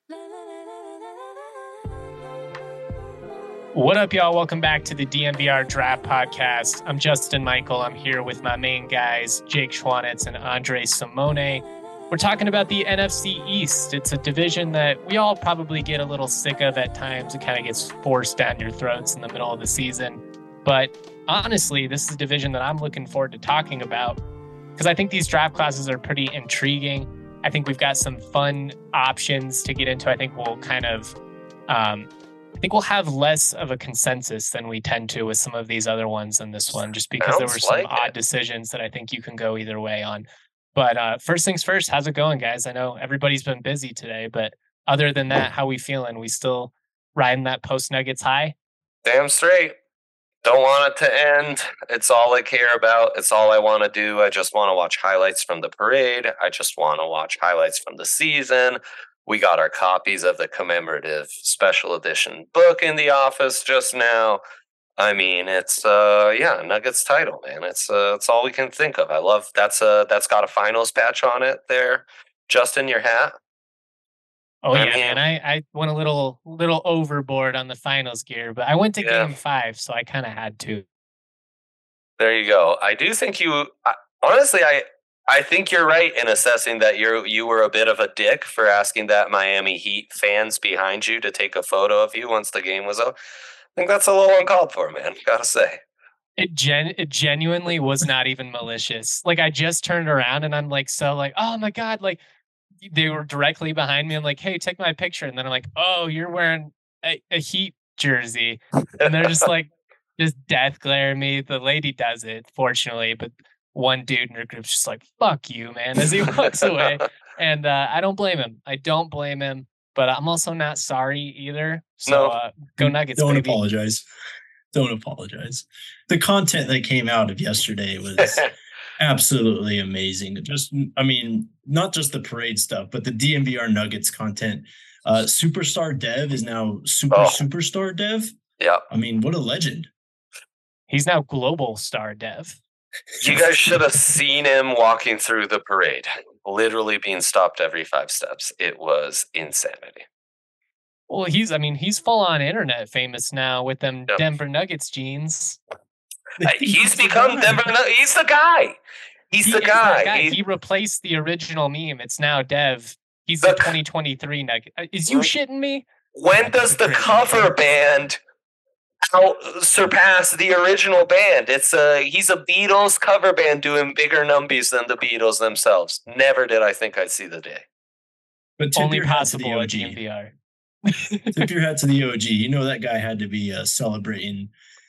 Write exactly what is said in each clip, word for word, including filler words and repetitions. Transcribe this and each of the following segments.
What up, y'all? Welcome back to the D N V R Draft Podcast. I'm Justin Michael. I'm here with my main guys, Jake Schwanitz and Andre Simone. We're talking about the N F C East. It's a division that we all probably get a little sick of at times. It kind of gets forced down your throats in the middle of the season. But honestly, this is a division that I'm looking forward to talking about because I think these draft classes are pretty intriguing. I think we've got some fun options to get into. I think we'll kind of... Um, I think we'll have less of a consensus than we tend to with some of these other ones in this one, just because Sounds there were some like odd it. decisions that I think you can go either way on. But uh, first things first, how's it going, guys? I know everybody's been busy today, but other than that, how we feeling? We still riding that post Nuggets high? Damn straight. Don't want it to end. It's all I care about. It's all I want to do. I just want to watch highlights from the parade. I just want to watch highlights from the season. We got our copies of the commemorative special edition book in the office just now. I mean, it's uh, yeah, Nuggets title, man. It's uh, it's all we can think of. I love that's uh that's got a finals patch on it there, just in your hat. Oh I yeah, mean, man. I, I went a little little overboard on the finals gear, but I went to yeah. game five, so I kind of had to. There you go. I do think you. I, honestly, I. I think you're right in assessing that you you were a bit of a dick for asking that Miami Heat fans behind you to take a photo of you once the game was over. I think that's a little uncalled for, man. Gotta say. It gen it genuinely was not even malicious. Like I just turned around and I'm like, so like, oh my God, like they were directly behind me. I'm like, hey, take my picture. And then I'm like, oh, you're wearing a, a Heat jersey. And they're just like, just death glare at me. The lady does it, fortunately, but one dude in her group's just like, fuck you, man, as he walks away. And uh, I don't blame him. I don't blame him, but I'm also not sorry either. So no. uh, go Nuggets, Don't baby. apologize. Don't apologize. The content that came out of yesterday was absolutely amazing. Just, I mean, not just the parade stuff, but the D N V R Nuggets content. Uh, Superstar Dev is now Super oh. Superstar Dev. Yeah. I mean, what a legend. He's now Global Star Dev. You guys should have seen him walking through the parade, literally being stopped every five steps. It was insanity. Well, he's, I mean, he's full on internet famous now with them yep. Denver Nuggets jeans. Uh, he's become Denver Nuggets. He's the guy. He's he the guy. guy. He, he replaced the original meme. It's now Dev. He's the, the twenty twenty-three Nugget. Is you shitting me? When does the cover band out surpass the original band? It's a he's a Beatles cover band doing bigger numbies than the Beatles themselves. Never did I think I'd see the day. But only possible at D N V R. Tip your hat to the O G. You know that guy had to be uh, celebrating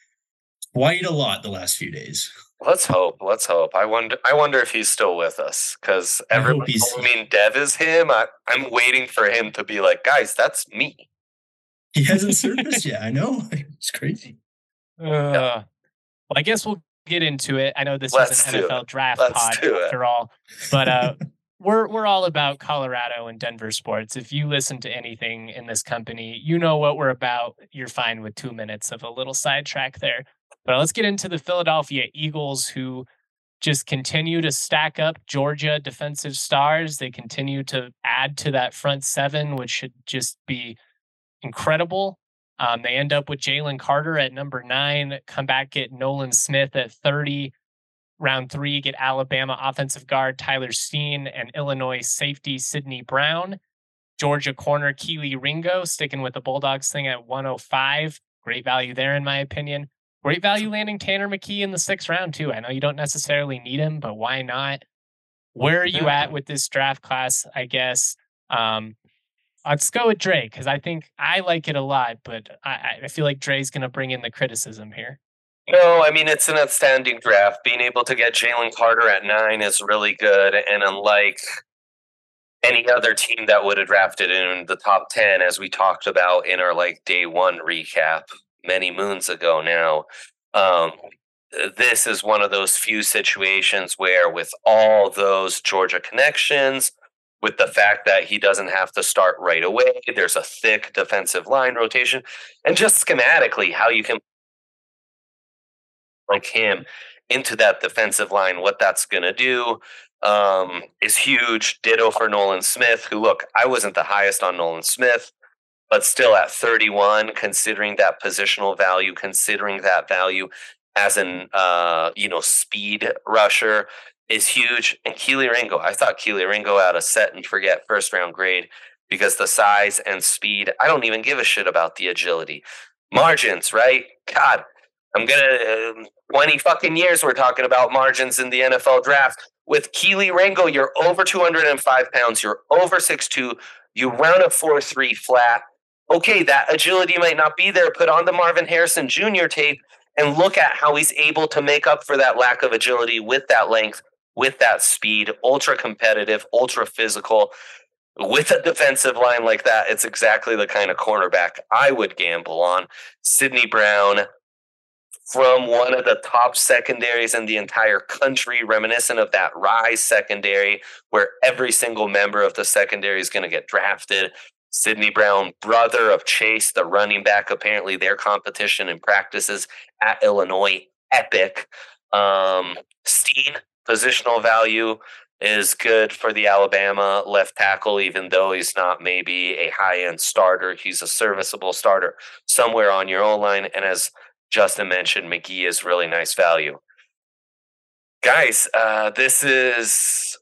quite a lot the last few days. Let's hope. Let's hope. I wonder. I wonder if he's still with us because everybody. I mean, Dev is him. I, I'm waiting for him to be like, guys, that's me. He hasn't surfaced yet. I know. It's crazy. Uh, yeah. Well, I guess we'll get into it. I know this Let's is an N F L it. draft Let's pod after all, but uh, we're we're all about Colorado and Denver sports. If you listen to anything in this company, you know what we're about. You're fine with two minutes of a little sidetrack there. But let's get into the Philadelphia Eagles, who just continue to stack up Georgia defensive stars. They continue to add to that front seven, which should just be incredible. Um, they end up with Jalen Carter at number nine, come back, get Nolan Smith at thirty. Round three, get Alabama offensive guard Tyler Steen and Illinois safety Sidney Brown. Georgia corner Keely Ringo, sticking with the Bulldogs thing at one oh five. Great value there, in my opinion. Great value landing Tanner McKee in the sixth round, too. I know you don't necessarily need him, but why not? Where are you at with this draft class, I guess? Um, let's go with Dre, because I think I like it a lot, but I, I feel like Dre's going to bring in the criticism here. No, I mean, it's an outstanding draft. Being able to get Jalen Carter at nine is really good. And unlike any other team that would have drafted in the top ten, as we talked about in our like day one recap many moons ago now, um, this is one of those few situations where with all those Georgia connections, with the fact that he doesn't have to start right away, there's a thick defensive line rotation, and just schematically how you can like him into that defensive line, what that's going to do. um, is huge. Ditto for Nolan Smith, who, look, I wasn't the highest on Nolan Smith, but still at thirty-one, considering that positional value, considering that value as an uh, you know speed rusher is huge. And Keely Ringo, I thought Keely Ringo had a set and forget first round grade because the size and speed. I don't even give a shit about the agility, margins, right? God, I'm gonna uh, twenty fucking years we're talking about margins in the N F L draft. With Keely Ringo, you're over two hundred five pounds, you're over six two, you run a four three flat. Okay, that agility might not be there. Put on the Marvin Harrison Junior tape and look at how he's able to make up for that lack of agility with that length, with that speed, ultra competitive, ultra physical. With a defensive line like that, it's exactly the kind of cornerback I would gamble on. Sidney Brown, from one of the top secondaries in the entire country, reminiscent of that Rise secondary, where every single member of the secondary is going to get drafted. Sidney Brown, brother of Chase, the running back, apparently their competition in practices at Illinois, epic. Um, Steen, positional value is good for the Alabama left tackle, even though he's not maybe a high-end starter. He's a serviceable starter somewhere on your O-line. And as Justin mentioned, McGee is really nice value. Guys, uh, this is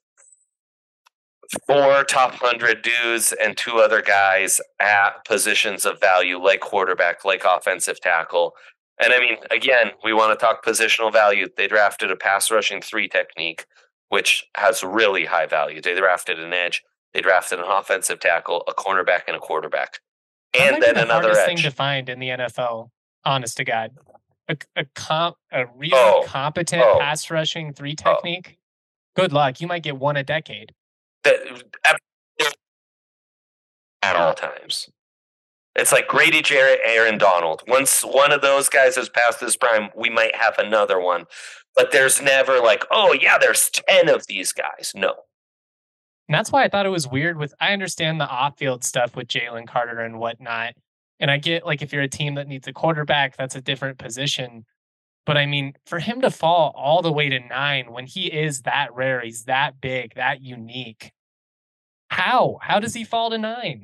four top one hundred dudes and two other guys at positions of value like quarterback, like offensive tackle. And I mean, again, we want to talk positional value. They drafted a pass rushing three technique, which has really high value. They drafted an edge. They drafted an offensive tackle, a cornerback, and a quarterback. And that might then be the another hardest edge. thing to find in the N F L, honest to God. A, a, comp, a really Oh, competent oh, pass rushing three technique. Oh. Good luck. You might get one a decade. That, at all times. It's like Grady Jarrett, Aaron Donald. Once one of those guys has passed his prime, we might have another one. But there's never like, oh, yeah, there's ten of these guys. No. And that's why I thought it was weird with, I understand the off-field stuff with Jalen Carter and whatnot. And I get, like, if you're a team that needs a quarterback, that's a different position. But, I mean, for him to fall all the way to nine when he is that rare, he's that big, that unique. How? How does he fall to nine?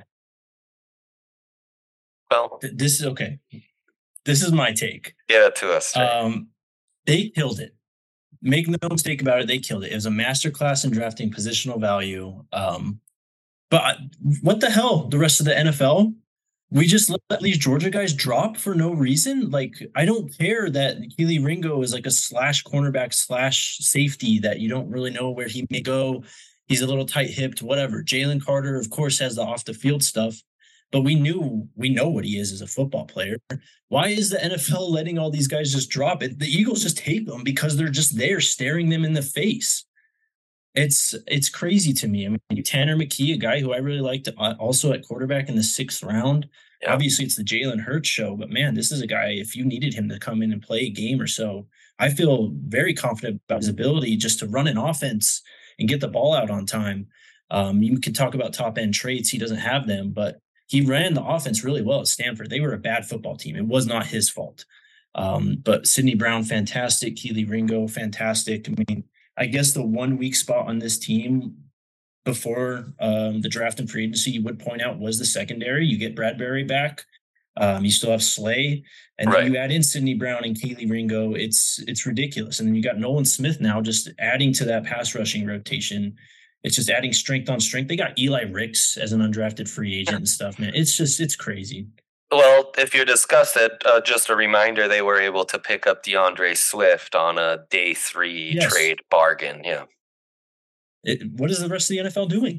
Well, this is okay. This is my take. Give it to us. Um, they killed it. Make no mistake about it. They killed it. It was a masterclass in drafting positional value. Um, but what the hell? The rest of the N F L, we just let these Georgia guys drop for no reason. Like, I don't care that Keely Ringo is like a slash cornerback slash safety that you don't really know where he may go. He's a little tight-hipped, whatever. Jalen Carter, of course, has the off-the-field stuff. But we knew, we know what he is as a football player. Why is the N F L letting all these guys just drop it? The Eagles just take them because they're just there staring them in the face. It's it's crazy to me. I mean, Tanner McKee, a guy who I really liked, also at quarterback in the sixth round. Yeah. Obviously, it's the Jalen Hurts show, but man, this is a guy, if you needed him to come in and play a game or so, I feel very confident about his ability just to run an offense and get the ball out on time. Um, you can talk about top-end traits. He doesn't have them, but he ran the offense really well at Stanford. They were a bad football team. It was not his fault. Um, but Sidney Brown, fantastic. Keely Ringo, fantastic. I mean, I guess the one weak spot on this team before um, the draft and free agency you would point out was the secondary. You get Bradbury back. Um, you still have Slay. And right. then you add in Sidney Brown and Keely Ringo. It's it's ridiculous. And then you got Nolan Smith now just adding to that pass rushing rotation. It's just adding strength on strength. They got Eli Ricks as an undrafted free agent and stuff, man. It's just, it's crazy. Well, if you're disgusted, uh, just a reminder, they were able to pick up DeAndre Swift on a day three yes. trade bargain. Yeah. It, what is the rest of the N F L doing?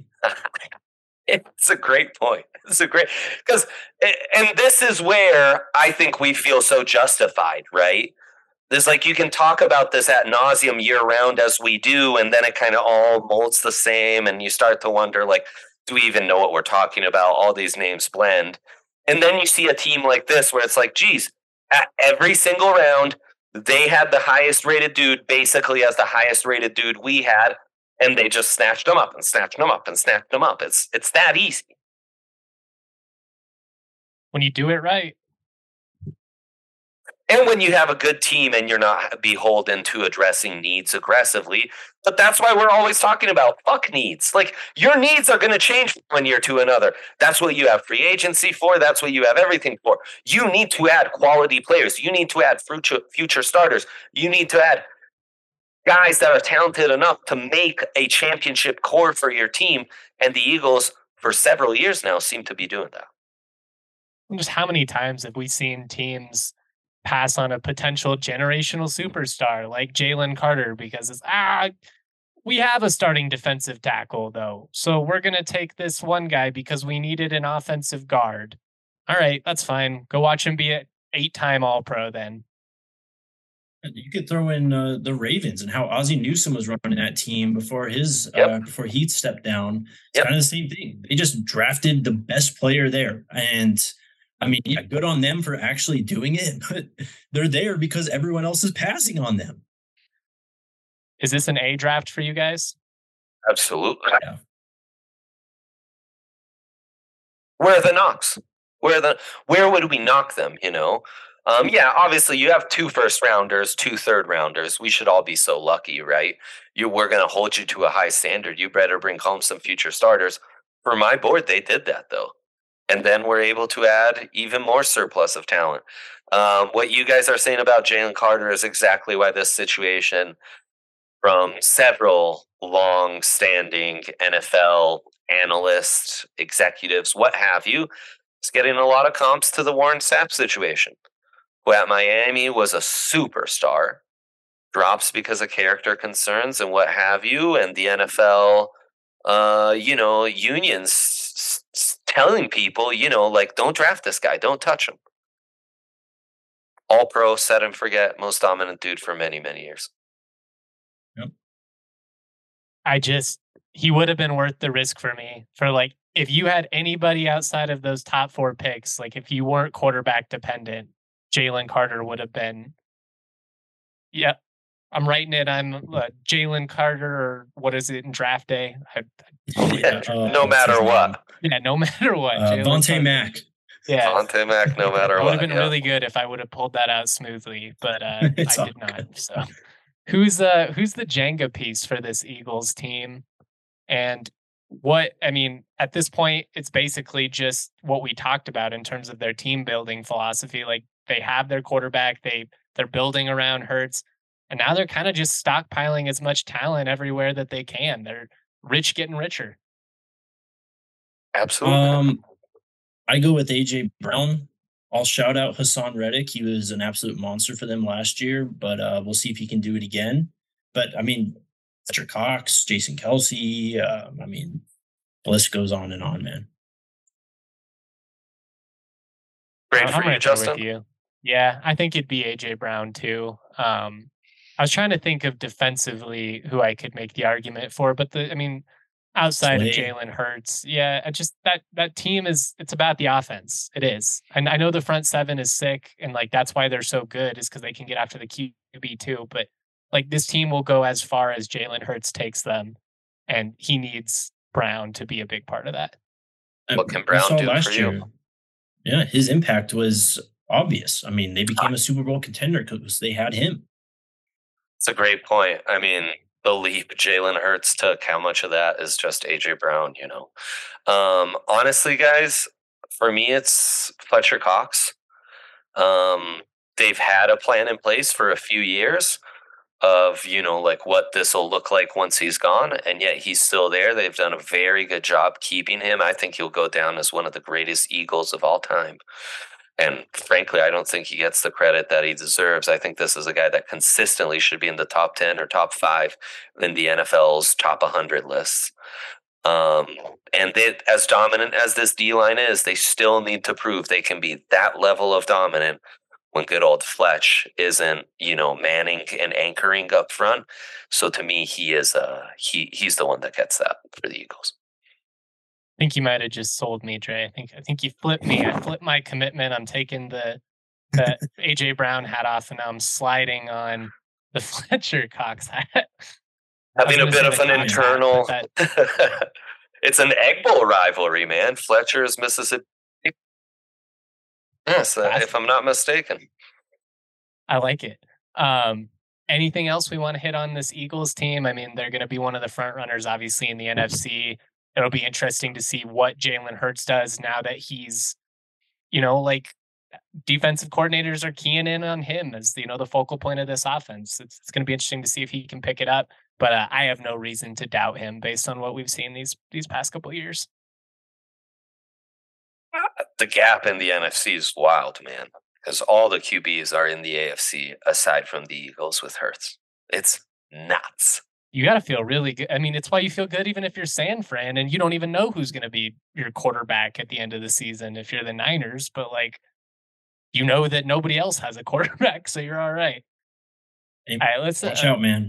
It's a great point. It's a great, because, and this is where I think we feel so justified, right? There's like, you can talk about this ad nauseum year round as we do, and then it kind of all molds the same. And you start to wonder, like, do we even know what we're talking about? All these names blend. And then you see a team like this where it's like, geez, at every single round, they had the highest rated dude basically as the highest rated dude we had. And they just snatched them up and snatched them up and snatched them up. It's, it's that easy. When you do it right. And when you have a good team and you're not beholden to addressing needs aggressively, but that's why we're always talking about fuck needs. Like your needs are going to change from one year to another. That's what you have free agency for. That's what you have everything for. You need to add quality players. You need to add future future starters. You need to add guys that are talented enough to make a championship core for your team. And the Eagles, for several years now, seem to be doing that. Just how many times have we seen teams pass on a potential generational superstar like Jalen Carter because it's, ah, we have a starting defensive tackle, though. So we're going to take this one guy because we needed an offensive guard. All right, that's fine. Go watch him be an eight-time All-Pro then. You could throw in uh, the Ravens and how Ozzie Newsome was running that team before his Yep. uh, before he stepped down. It's Yep. kind of the same thing. They just drafted the best player there, and I mean, yeah, good on them for actually doing it. But they're there because everyone else is passing on them. Is this an A draft for you guys? Absolutely. Yeah. Where are the knocks? Where are the where would we knock them? You know, um, yeah. Obviously, you have two first rounders, two third rounders. We should all be so lucky, right? You we're going to hold you to a high standard. You better bring home some future starters. For my board, they did that though, and then we're able to add even more surplus of talent. Um, what you guys are saying about Jalen Carter is exactly why this situation, from several long-standing N F L analysts, executives, what have you, is getting a lot of comps to the Warren Sapp situation, who at Miami was a superstar, drops because of character concerns and what have you, and the N F L, uh, you know, unions s- s- telling people, you know, like, don't draft this guy, don't touch him. All pro, set and forget, most dominant dude for many, many years. I just, he would have been worth the risk for me. For like, if you had anybody outside of those top four picks, like if you weren't quarterback dependent, Jalen Carter would have been. Yeah, I'm writing it. I'm uh, Jalen Carter, or what is it in draft day? I, I totally Yeah, butchered uh, that. No what's matter his what. name? Yeah, no matter what. Uh, Jalen Vontae Carter. Mack. Yeah, Vontae Mack, no matter that would what. have been yeah. really good if I would have pulled that out smoothly, but uh, It's I all did not. good. So, who's uh who's the Jenga piece for this Eagles team? And what I mean, at this point, it's basically just what we talked about in terms of their team building philosophy. Like they have their quarterback, they they're building around Hurts, and now they're kind of just stockpiling as much talent everywhere that they can. They're rich getting richer. Absolutely. Um, I go with A J Brown. I'll shout out Hassan Reddick. He was an absolute monster for them last year, but uh, we'll see if he can do it again. But I mean, Fletcher Cox, Jason Kelsey. Uh, I mean, the list goes on and on, man. Great I'm for you, right there Justin. with you. Yeah, I think it'd be A J Brown too. Um, I was trying to think of defensively who I could make the argument for, but the I mean, outside of Slay. Jalen Hurts, yeah, I just that that team is it's about the offense. It is, and I know the front seven is sick, and like that's why they're so good is because they can get after the Q B too. But like this team will go as far as Jalen Hurts takes them, and he needs Brown to be a big part of that. What can We Brown saw do last for you? year. Yeah, his impact was obvious. I mean, they became a Super Bowl contender because they had him. It's a great point. I mean, the leap Jalen Hurts took, how much of that is just A J Brown, you know? Um, honestly, guys, for me, it's Fletcher Cox. Um, they've had a plan in place for a few years of, you know, like what this will look like once he's gone, and yet he's still there. They've done a very good job keeping him. I think he'll go down as one of the greatest Eagles of all time. And frankly, I don't think he gets the credit that he deserves. I think this is a guy that consistently should be in the top ten or top five in the N F L's top one hundred lists. Um, and they, as dominant as this D-line is, they still need to prove they can be that level of dominant when good old Fletch isn't, you know, manning and anchoring up front. So to me, he is uh he he's the one that gets that for the Eagles. I think you might have just sold me, Dre. I think I think you flipped me. I flipped my commitment. I'm taking the the A J Brown hat off, and now I'm sliding on the Fletcher Cox hat. Having a gonna bit say of the an Cox hat, internal. but that- It's an Egg Bowl rivalry, man. Fletcher is Mississippi. Yes, uh, Classic. if I'm not mistaken. I like it. Um, anything else we want to hit on this Eagles team? I mean, they're going to be one of the front runners, obviously, in the N F C. It'll be interesting to see what Jalen Hurts does now that he's, you know, like defensive coordinators are keying in on him as you know the focal point of this offense. It's, it's going to be interesting to see if he can pick it up. But uh, I have no reason to doubt him based on what we've seen these these past couple years. The gap in the N F C is wild, man, because all the Q Bs are in the A F C aside from the Eagles with Hurts. It's nuts. You got to feel really good. I mean, it's why you feel good even if you're San Fran and you don't even know who's going to be your quarterback at the end of the season if you're the Niners. But like, you know that nobody else has a quarterback, so you're all right. Hey, all right, let's watch uh, out, man.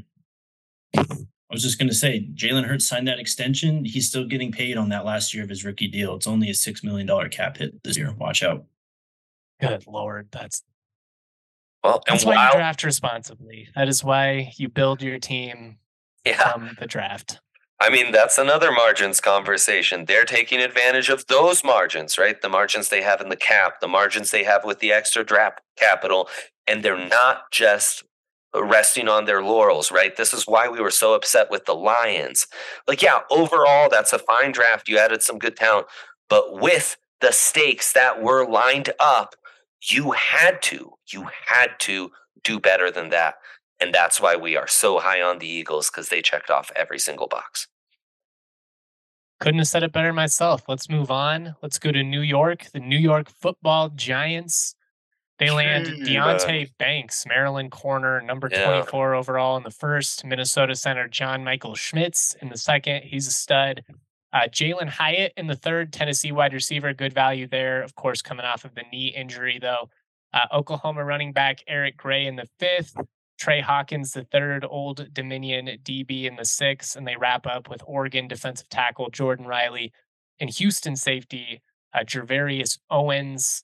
I was just going to say, Jalen Hurts signed that extension. He's still getting paid on that last year of his rookie deal. It's only a six million dollars cap hit this year. Watch out. Good Lord. That's well, that's and why while, you draft responsibly. That is why you build your team yeah. from the draft. I mean, that's another margins conversation. They're taking advantage of those margins, right? The margins they have in the cap, the margins they have with the extra draft capital, and they're not just resting on their laurels, right? This is why we were so upset with the Lions. Like, yeah, overall, that's a fine draft. You added some good talent, but with the stakes that were lined up, you had to, you had to do better than that. And that's why we are so high on the Eagles, because they checked off every single box. Couldn't have said it better myself. Let's move on. Let's go to New York. The New York Football Giants. They land Deonte Banks, Maryland corner, number Yeah. twenty-four overall in the first. Minnesota center John Michael Schmitz in the second. He's a stud. Uh, Jalen Hyatt in the third. Tennessee wide receiver. Good value there. Of course, coming off of the knee injury, though. Uh, Oklahoma running back Eric Gray in the fifth. Trey Hawkins, the third. Old Dominion D B in the sixth. And they wrap up with Oregon defensive tackle Jordan Riley and Houston safety uh, Gervarius Owens.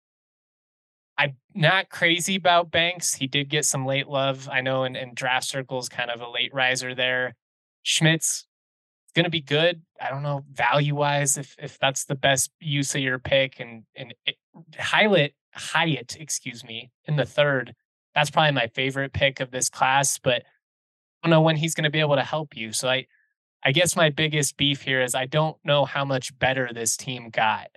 I'm not crazy about Banks. He did get some late love, I know, in, in draft circles, kind of a late riser there. Schmitz going to be good. I don't know value-wise if if that's the best use of your pick. And and it, Hyatt, Hyatt, excuse me, in the third. That's probably my favorite pick of this class, but I don't know when he's going to be able to help you. So I, I guess my biggest beef here is I don't know how much better this team got.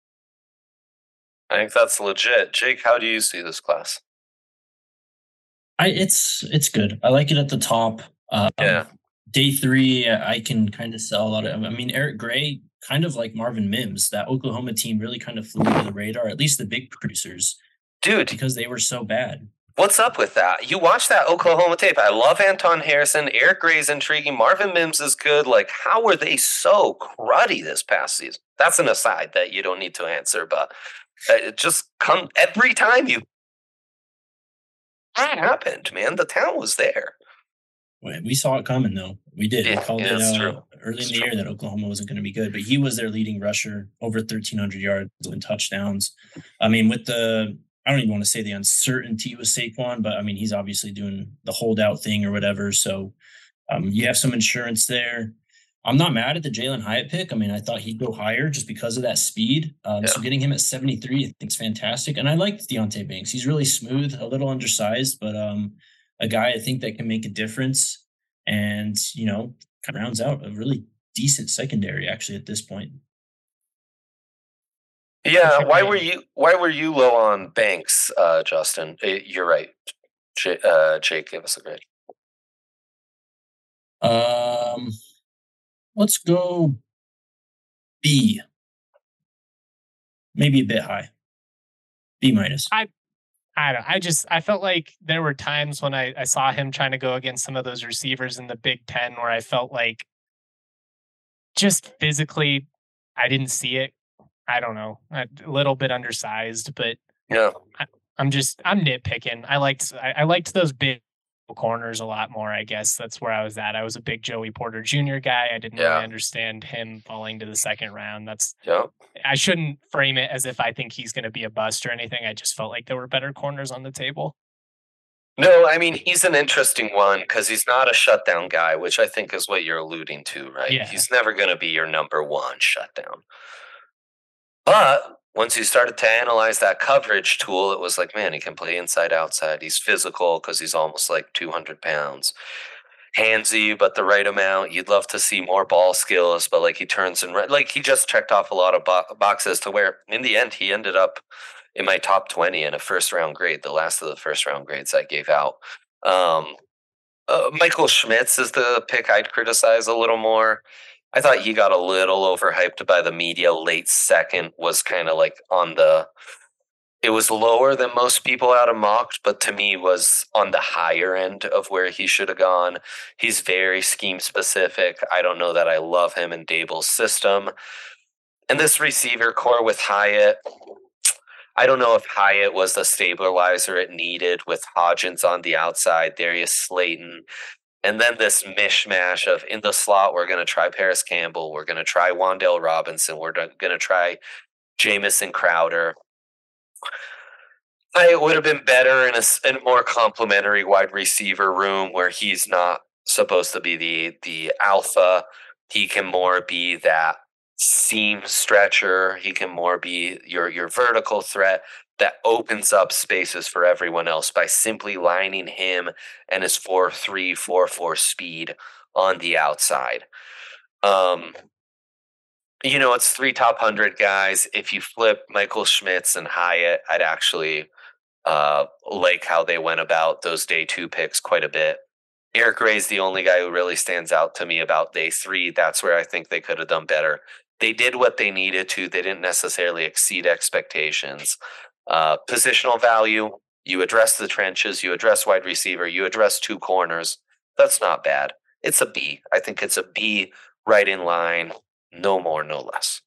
I think that's legit. Jake, how do you see this class? I it's it's good. I like it at the top. Um, Yeah. Day three, I can kind of sell a lot of. I mean, Eric Gray, kind of like Marvin Mims, that Oklahoma team really kind of flew under the radar. At least the big producers, Dude, because they were so bad. what's up with that? You watch that Oklahoma tape. I love Anton Harrison. Eric Gray's intriguing. Marvin Mims is good. Like, how were they so cruddy this past season? That's an aside that you don't need to answer, but it just come every time you. What happened, man? The talent was there. We saw it coming, though. We did. Yeah, we called yeah, it that's uh, true. early That's in the true. year that Oklahoma wasn't going to be good, but he was their leading rusher, over thirteen hundred yards and touchdowns. I mean, with the, I don't even want to say the uncertainty with Saquon, but I mean, he's obviously doing the holdout thing or whatever. So um, you have some insurance there. I'm not mad at the Jalen Hyatt pick. I mean, I thought he'd go higher just because of that speed. Um, Yeah. So getting him at seventy-three, I think is fantastic. And I liked Deonte Banks. He's really smooth, a little undersized, but um, a guy I think that can make a difference. And, you know, kind of rounds out a really decent secondary actually at this point. Yeah, why Agreed. were you why were you low on Banks, uh, Justin? Eh, You're right. J- uh, Jake, give us a grade. Um, let's go B. Maybe a bit high. B minus. I I don't. I just I felt like there were times when I, I saw him trying to go against some of those receivers in the Big Ten where I felt like just physically I didn't see it. I don't know, a little bit undersized, but Yeah. I'm just I'm nitpicking. I liked I, I liked those big corners a lot more. I guess that's where I was at. I was a big Joey Porter Junior guy. I didn't Yeah. really understand him falling to the second round. That's Yeah. I shouldn't frame it as if I think he's going to be a bust or anything. I just felt like there were better corners on the table. No, I mean, he's an interesting one because he's not a shutdown guy, which I think is what you're alluding to, right? Yeah. He's never going to be your number one shutdown. But once you started to analyze that coverage tool, it was like, man, he can play inside, outside. He's physical because he's almost like two hundred pounds. Handsy, but the right amount. You'd love to see more ball skills, but like he turns and like he just checked off a lot of bo- boxes to where in the end he ended up in my top twenty in a first round grade, the last of the first round grades I gave out. Um, uh, Michael Schmitz is the pick I'd criticize a little more. I thought he got a little overhyped by the media. Late second was kind of like on the. It was lower than most people out of mocked, but to me was on the higher end of where he should have gone. He's very scheme specific. I don't know that I love him in Dable's system. And this receiver core with Hyatt, I don't know if Hyatt was the stabilizer it needed with Hodgins on the outside, Darius Slayton. And then this mishmash of in the slot, we're going to try Paris Campbell. We're going to try Wan'Dale Robinson. We're going to try Jamison Crowder. It would have been better in a, in a more complementary wide receiver room where he's not supposed to be the the alpha. He can more be that seam stretcher. He can more be your your vertical threat that opens up spaces for everyone else by simply lining him and his four three, four four speed on the outside. Um, you know, it's three top one hundred guys. If you flip Michael Schmitz and Hyatt, I'd actually uh, like how they went about those day two picks quite a bit. Eric Ray's the only guy who really stands out to me about day three. That's where I think they could have done better. They did what they needed to. They didn't necessarily exceed expectations. Uh, positional value, you address the trenches, you address wide receiver, you address two corners. That's not bad. It's a B. I think it's a B right in line. No more, no less.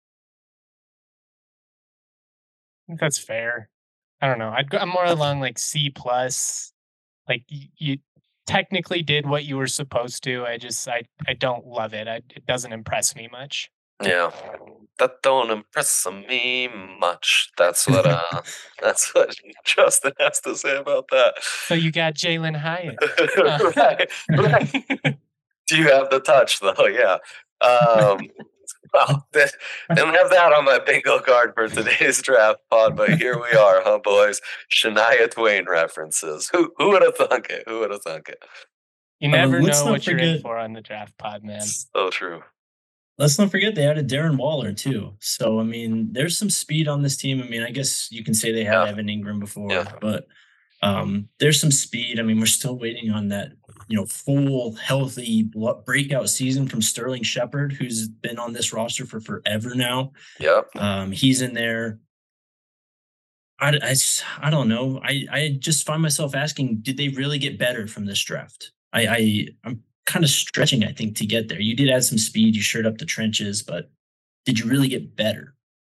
I think that's fair. I don't know. I'd go, I'm more along like C plus. Like you, you technically did what you were supposed to. I just I I don't love it. I, it doesn't impress me much. Yeah, that don't impress me much. That's what uh, that's what Justin has to say about that. So you got Jalen Hyatt. right, right. Do you have the touch though? Yeah. Um, well, they don't have that on my bingo card for today's draft pod, but here we are, huh, boys? Shania Twain references. Who who would have thunk it? Who would have thunk it? You never Um, let's know not what you're in forget- for on the draft pod, man. So true. Let's not forget they added Darren Waller too. So I mean, there's some speed on this team. I mean, I guess you can say they had Yeah. Evan Ingram before, Yeah. but um, there's some speed. I mean, we're still waiting on that, you know, full healthy blo- breakout season from Sterling Shepard, who's been on this roster for forever now. Yep. Um, he's in there. I, I, s- I don't know. I, I just find myself asking, did they really get better from this draft? I, I I'm kind of stretching, I think, to get there. You did add some speed, you shored up the trenches, but did you really get better?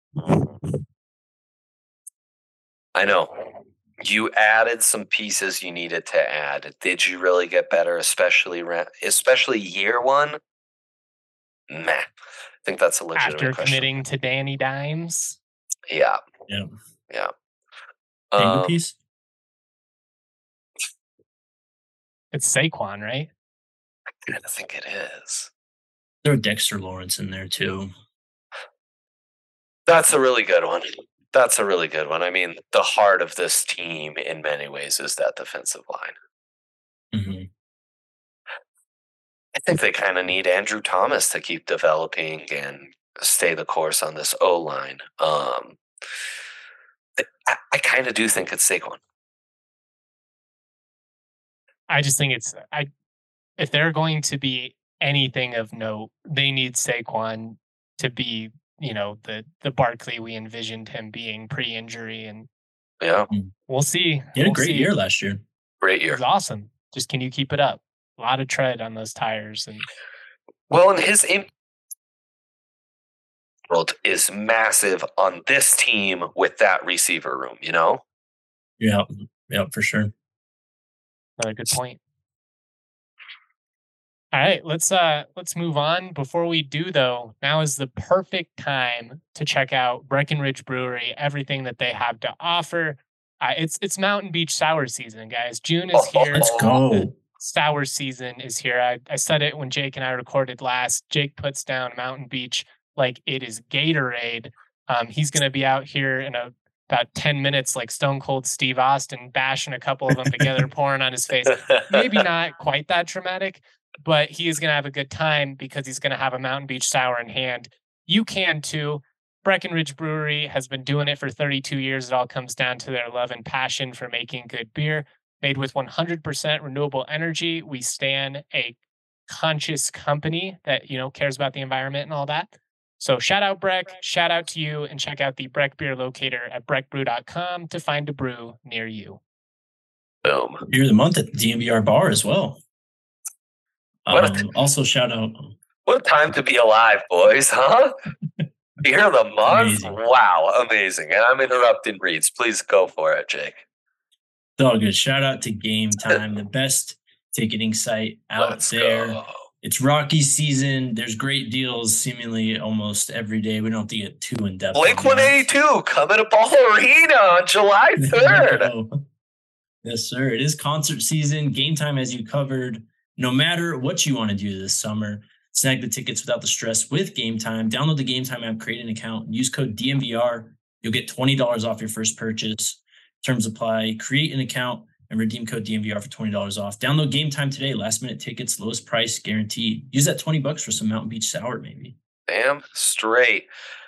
I know. You added some pieces you needed to add. Did you really get better, especially ra- especially year one? Meh. I think that's a legitimate After question. committing to Danny Dimes. Yeah. Yeah. Yeah. Tango Um, piece? It's Saquon, right? I think it is. Throw Dexter Lawrence in there too. That's a really good one. That's a really good one. I mean, the heart of this team in many ways is that defensive line. Mm-hmm. I think they kind of need Andrew Thomas to keep developing and stay the course on this O line. Um, I, I kind of do think it's Saquon. I just think it's I if they're going to be anything of note, they need Saquon to be, you know, the the Barkley we envisioned him being pre-injury, and Yeah, we'll see. He had a We'll great see. year last year. great It year. was awesome. Just can you keep it up? A lot of tread on those tires, and Well, and his impact is massive on this team with that receiver room, you know? Yeah. Yeah, for sure. another good point. All right, let's uh let's move on. Before we do though, now is the perfect time to check out Breckenridge Brewery, everything that they have to offer. Uh, it's it's Mountain Beach sour season, guys. June is here. Let's Oh. go. Sour season is here. I, I said it when Jake and I recorded last. Jake puts down Mountain Beach like it is Gatorade. Um, he's going to be out here in a, about ten minutes, like Stone Cold Steve Austin, bashing a couple of them together, pouring on his face. Maybe not quite that dramatic, but he is going to have a good time because he's going to have a Mountain Beach Sour in hand. You can too. Breckenridge Brewery has been doing it for thirty-two years. It all comes down to their love and passion for making good beer. Made with one hundred percent renewable energy. We stand a conscious company that, you know, cares about the environment and all that. So shout out Breck, shout out to you, and check out the Breck Beer Locator at breck brew dot com to find a brew near you. Boom. Beer of the month at the D M V R bar as well. What a Um, t- also shout out. What a time to be alive, boys, huh? Beer of the month? Amazing. Wow, amazing. And I'm interrupting Reeds. Please go for it, Jake. It's all good. Shout out to Game Time, the best ticketing site out Let's there. go. It's Rocky season. There's great deals seemingly almost every day. We don't have to get too in depth. Blink one eighty-two coming to Ball Arena on July third. Yes, sir. It is concert season. Game Time has you covered. No matter what you want to do this summer, snag the tickets without the stress with Game Time. Download the Game Time app, create an account, and use code D M V R. You'll get twenty dollars off your first purchase. Terms apply. Create an account and redeem code D M V R for twenty dollars off. Download Game Time today. Last minute tickets, lowest price guaranteed. Use that twenty bucks for some Mountain Beach Sour, maybe. Damn straight.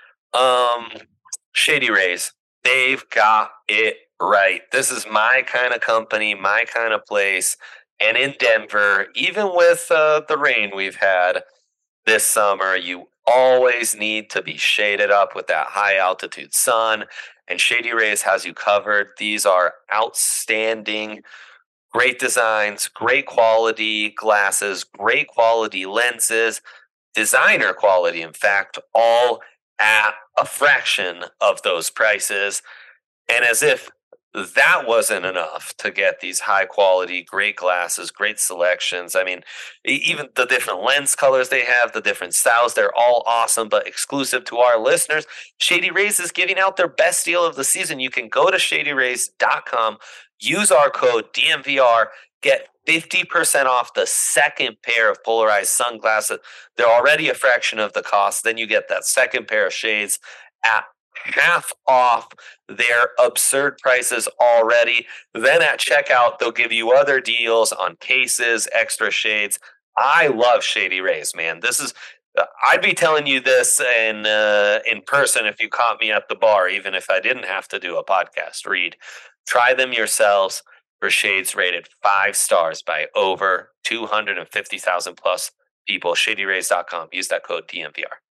Um, Shady Rays, they've got it right. This is my kind of company, my kind of place. And in Denver, even with uh, the rain we've had this summer, you always need to be shaded up with that high altitude sun. And Shady Rays has you covered. These are outstanding, great designs, great quality glasses, great quality lenses, designer quality, in fact, all at a fraction of those prices. And as if that wasn't enough to get these high quality, great glasses, great selections. I mean, even the different lens colors they have, the different styles, they're all awesome, but exclusive to our listeners. Shady Rays is giving out their best deal of the season. You can go to shady rays dot com, use our code D M V R, get fifty percent off the second pair of polarized sunglasses. They're already a fraction of the cost. Then you get that second pair of shades at half off their absurd prices already. Then at checkout, they'll give you other deals on cases, extra shades. I love Shady Rays, man. This is, I'd be telling you this in uh, in person if you caught me at the bar, even if I didn't have to do a podcast read. Try them yourselves for shades rated five stars by over two hundred fifty thousand plus people. shady rays dot com. Use that code D M V R.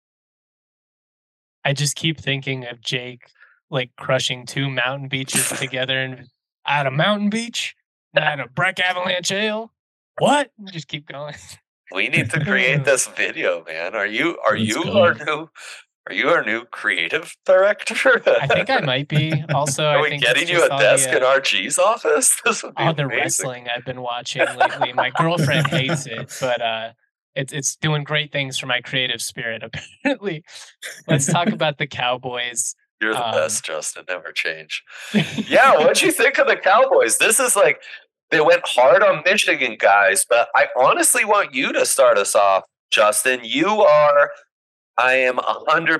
I just keep thinking of Jake like crushing two mountain beaches together and at a mountain beach, at a Breck Avalanche Ale. What? Just keep going. We need to create this video, man. Are you are Let's you go. our new are you our new creative director? I think I might be. Also, Are I we think getting it's you just a all desk the, in uh, R G's office? This would be all the amazing. wrestling I've been watching lately. My girlfriend hates it, but uh, it's it's doing great things for my creative spirit. Apparently, let's talk about the Cowboys. You're the Um, best, Justin. Never change. Yeah, what'd you think of the Cowboys? This is like they went hard on Michigan guys, but I honestly want you to start us off, Justin. You are, I am a hundred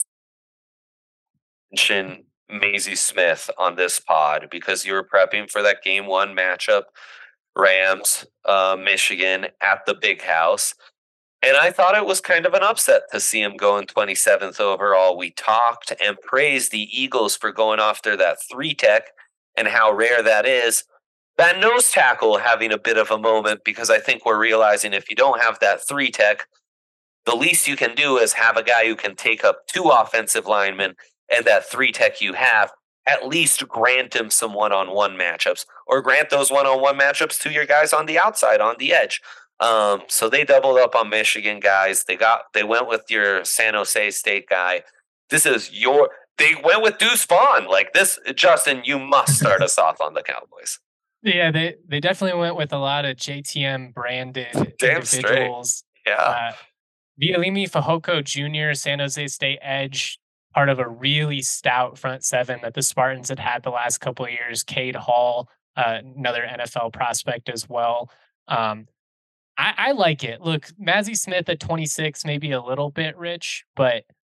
mention Maisie Smith on this pod because you were prepping for that game one matchup, Rams, uh, Michigan at the Big House. And I thought it was kind of an upset to see him going twenty-seventh overall. We talked and praised the Eagles for going after that three tech and how rare that is. That nose tackle having a bit of a moment because I think we're realizing if you don't have that three tech, the least you can do is have a guy who can take up two offensive linemen, and that three tech you have, at least grant him some one-on-one matchups or grant those one-on-one matchups to your guys on the outside, on the edge. Um, so they doubled up on Michigan guys. They got they went with your San Jose State guy. This is your they went with Deuce Vaughn. Like this, Justin, you must start us off on the Cowboys. Yeah, they they definitely went with a lot of J T M branded Damn straight. individuals. Yeah. Uh, Vialimi Fehoko Junior, San Jose State edge, part of a really stout front seven that the Spartans had had the last couple of years. Cade Hall, uh, another N F L prospect as well. Um, I, I like it. Look, Mazzie Smith at twenty-six, maybe a little bit rich, but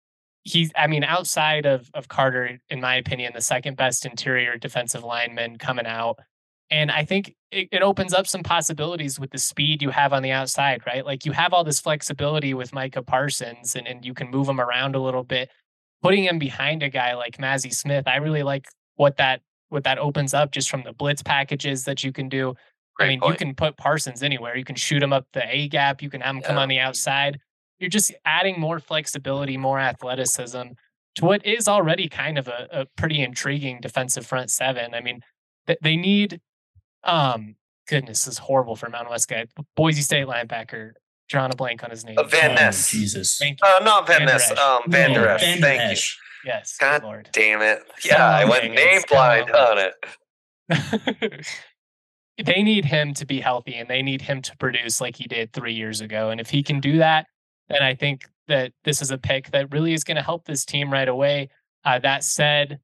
he's, I mean, outside of of Carter, in my opinion, the second best interior defensive lineman coming out. And I think it, it opens up some possibilities with the speed you have on the outside, right? Like you have all this flexibility with Micah Parsons, and, and you can move him around a little bit. Putting him behind a guy like Mazi Smith, I really like what that what that opens up just from the blitz packages that you can do. I Great mean, you point. can put Parsons anywhere. You can shoot him up the A gap. You can have him come Yeah. on the outside. You're just adding more flexibility, more athleticism to what is already kind of a, a pretty intriguing defensive front seven. I mean, th- they need, um, goodness, this is horrible for Mountain West guy. Boise State linebacker, drawing a blank on his name. Uh, Van Oh, Ness. Jesus. Thank you. Uh, not Van Van Der Ness. Esch. Um, Van No, Der Esch. Van Der Thank you. Esch. Yes, God good Lord. damn it. Come Yeah, I on, went Bengals, name come blind on. on it. They need him to be healthy, and they need him to produce like he did three years ago. And if he can do that, then I think that this is a pick that really is going to help this team right away. Uh, that said,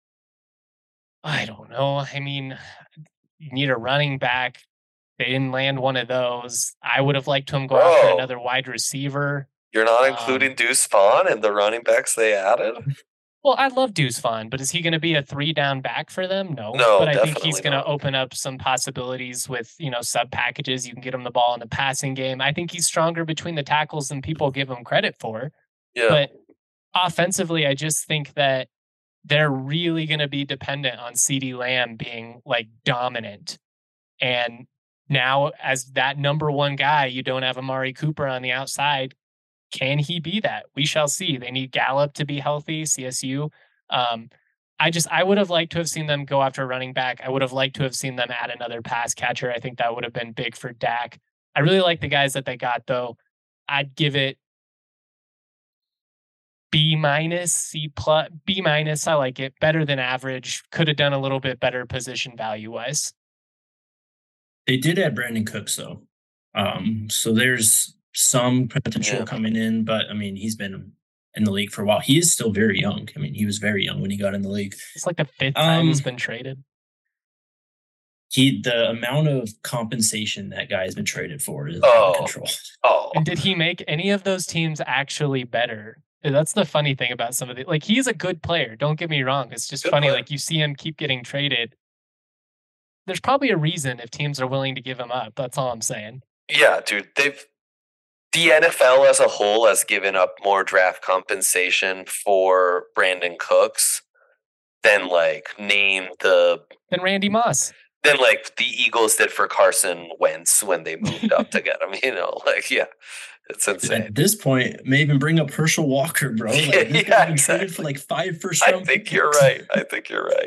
I don't know. I mean, you need a running back. They didn't land one of those. I would have liked him go after Bro. another wide receiver. You're not Um, including Deuce Vaughn and the running backs they added? Well, I love Deuce Vaughn, but is he going to be a three down back for them? No. No, but I think he's definitely going to not. open up some possibilities with, you know, sub packages. You can get him the ball in the passing game. I think he's stronger between the tackles than people give him credit for. Yeah. But offensively, I just think that they're really going to be dependent on CeeDee Lamb being like dominant. And now, as that number one guy, you don't have Amari Cooper on the outside. Can he be that? We shall see. They need Gallup to be healthy, C S U. Um, I just, I would have liked to have seen them go after a running back. I would have liked to have seen them add another pass catcher. I think that would have been big for Dak. I really like the guys that they got, though. I'd give it B minus, C plus, B minus. I like it. Better than average. Could have done a little bit better position value wise. They did add Brandon Cooks though, um, so there's some potential Yeah. coming in. But I mean, he's been in the league for a while. He is still very young. I mean, he was very young when he got in the league. It's like the fifth time he's Um, been traded. He the amount of compensation that guy has been traded for is out Oh. of control. Oh, And did he make any of those teams actually better? That's the funny thing about some of the, like, he's a good player. Don't get me wrong. It's just Good funny. player. Like, you see him keep getting traded. There's probably a reason if teams are willing to give him up. That's all I'm saying. yeah, dude. They've the N F L as a whole has given up more draft compensation for Brandon Cooks than like name the Then Randy Moss. than like the Eagles did for Carson Wentz when they moved up to get him. You know, like yeah, it's insane. At this point, may even bring up Herschel Walker, bro. Like, Yeah, this guy's yeah, been traded for exactly. like five first I round. think you're picks. right. I think you're right.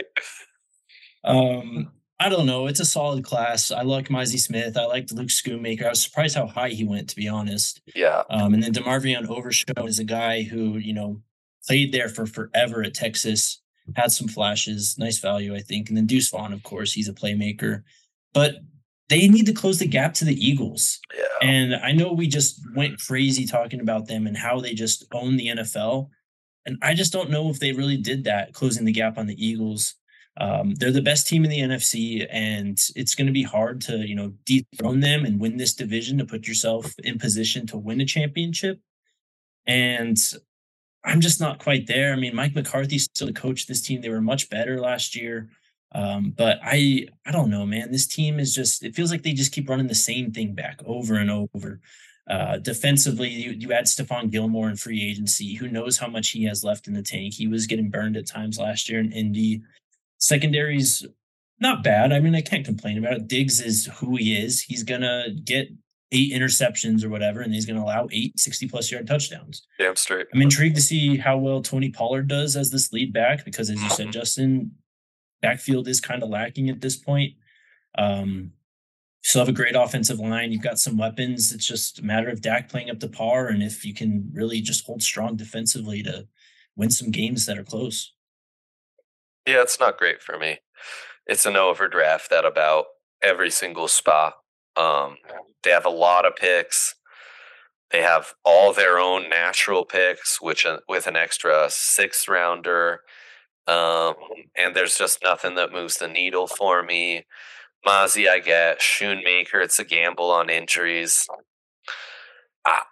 Um, I don't know. It's a solid class. I like Mizey Smith. I liked Luke Schoonmaker. I was surprised how high he went, to be honest. Yeah. Um, and then DeMarvion Overshown is a guy who, you know, played there for forever at Texas, had some flashes, nice value, I think. And then Deuce Vaughn, of course, he's a playmaker. But they need to close the gap to the Eagles. Yeah. And I know we just went crazy talking about them and how they just own the N F L. And I just don't know if they really did that, closing the gap on the Eagles. Um, they're the best team in the N F C, and it's going to be hard to, you know, dethrone them and win this division to put yourself in position to win a championship. And I'm just not quite there. I mean, Mike McCarthy's still the coach of this team. They were much better last year. Um, but I, I don't know, man. This team is just, it feels like they just keep running the same thing back over and over. Uh, defensively, you, you add Stephon Gilmore in free agency. Who knows how much he has left in the tank? He was getting burned at times last year in Indy. Secondary's not bad. I mean, I can't complain about it. Diggs is who he is. He's going to get eight interceptions or whatever, and he's going to allow eight sixty-plus yard touchdowns. Damn straight. I'm intrigued to see how well Tony Pollard does as this lead back because, as you said, Justin, backfield is kind of lacking at this point. Um, you still have a great offensive line. You've got some weapons. It's just a matter of Dak playing up to par and if you can really just hold strong defensively to win some games that are close. Yeah, it's not great for me. It's an overdraft at about every single spot. Um, they have a lot of picks. They have all their own natural picks, which uh, with an extra sixth rounder. Um, and there's just nothing that moves the needle for me. Mozzie, I get. Schoonmaker, it's a gamble on injuries. I,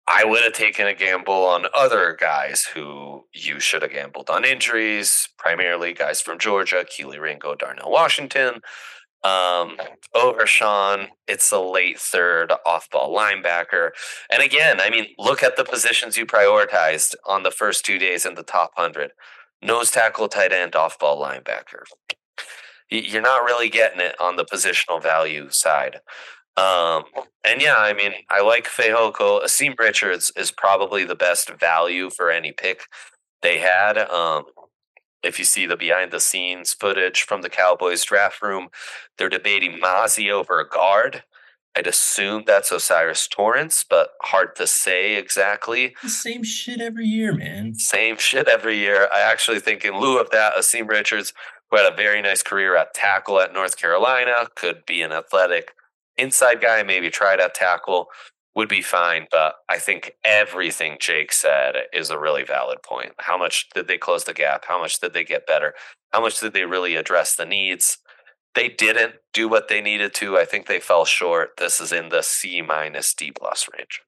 I would have taken a gamble on other guys who you should have gambled on injuries, primarily guys from Georgia, Keely Ringo, Darnell Washington. Um, over Sean, it's a late third off-ball linebacker. And again, I mean, look at the positions you prioritized on the first two days in the top one hundred. Nose tackle, tight end, off-ball linebacker. You're not really getting it on the positional value side. Um, and yeah, I mean, I like Fehoko. Asim Richards is probably the best value for any pick they had. Um, if you see the behind the scenes footage from the Cowboys draft room, they're debating Mozzie over a guard. I'd assume that's Osiris Torrance, but hard to say exactly. The same shit every year, man. Same shit every year. I actually think in lieu of that, Asim Richards, who had a very nice career at tackle at North Carolina, could be an athletic inside guy, maybe tried at tackle, would be fine. But I think everything Jake said is a really valid point. How much did they close the gap? How much did they get better? How much did they really address the needs? They didn't do what they needed to. I think they fell short. This is in the C minus D plus range.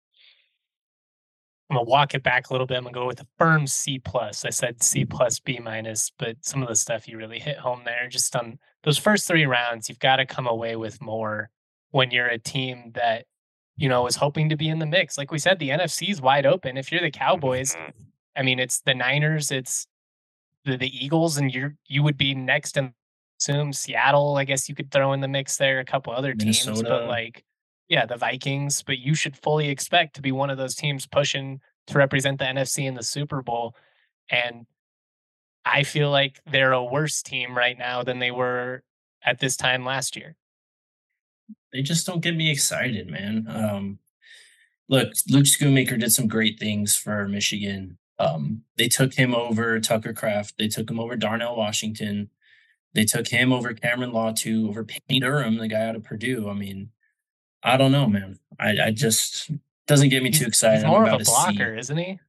I'm gonna walk it back a little bit. I'm gonna go with a firm C plus. I said C plus B minus, but some of the stuff you really hit home there. Just on those first three rounds, you've got to come away with more when you're a team that, you know, is hoping to be in the mix. Like we said, the N F C is wide open. If you're the Cowboys, I mean, it's the Niners, it's the, the Eagles, and you're you would be next in assume Seattle. I guess you could throw in the mix there, a couple other teams, Minnesota. but like, yeah, the Vikings. But you should fully expect to be one of those teams pushing to represent the N F C in the Super Bowl. And I feel like they're a worse team right now than they were at this time last year. They just don't get me excited, man. Um, look, Luke Schoonmaker did some great things for Michigan. Um, they took him over Tucker Kraft. They took him over Darnell Washington. They took him over Cameron Latu, over Payne Durham, the guy out of Purdue. I mean, I don't know, man. I, I just doesn't get me He's, too excited. he's more I'm of a about to blocker, see. isn't he?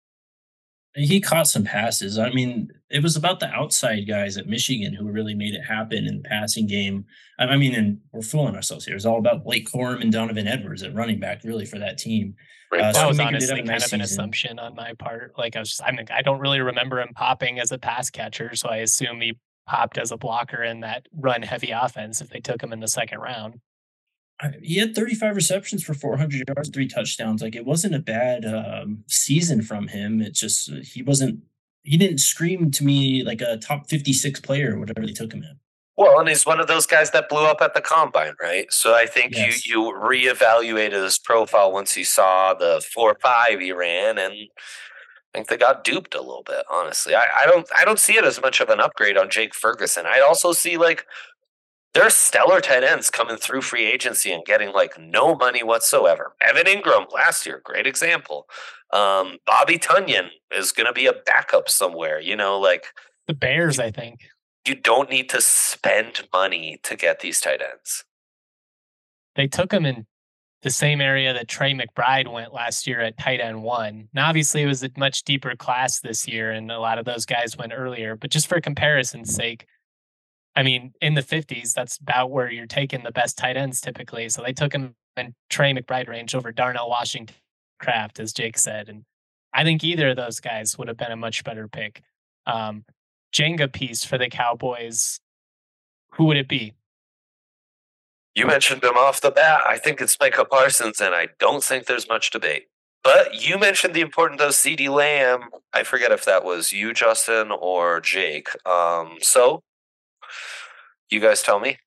He caught some passes. I mean, it was about the outside guys at Michigan who really made it happen in the passing game. I I mean, and we're fooling ourselves here. It's all about Blake Corum and Donovan Edwards at running back, really, for that team. Right. Uh, That was Schoonmaker did honestly have a kind nice of an season. assumption on my part. Like I was just, I mean, I don't really remember him popping as a pass catcher, so I assume he popped as a blocker in that run heavy offense if they took him in the second round. I- He had thirty-five receptions for four hundred yards, three touchdowns. Like, it wasn't a bad um, season from him. It just, uh, he wasn't, he didn't scream to me like a top fifty-six player or whatever they took him in. Well, and he's one of those guys that blew up at the combine, right? So I think Yes. you you reevaluated his profile once you saw the four five he ran, and I think they got duped a little bit. Honestly, I, I don't I don't see it as much of an upgrade on Jake Ferguson. I also see like there are stellar tight ends coming through free agency and getting like no money whatsoever. Evan Ingram last year, great example. Um, Bobby Tunyon is going to be a backup somewhere. You know, like The Bears, I think. you don't need to spend money to get these tight ends. They took him in the same area that Trey McBride went last year at tight end one. Now, obviously, it was a much deeper class this year, and a lot of those guys went earlier. But just for comparison's sake, I mean, in the fifties, that's about where you're taking the best tight ends typically. So they took him in Trey McBride range over Darnell Washington Kraft, as Jake said. And I think either of those guys would have been a much better pick. Um, Jenga piece for the Cowboys, who would it be? You mentioned him off the bat. I think it's Micah Parsons, and I don't think there's much debate. But you mentioned the importance of CeeDee Lamb. I forget if that was you, Justin, or Jake. Um, so, you guys tell me.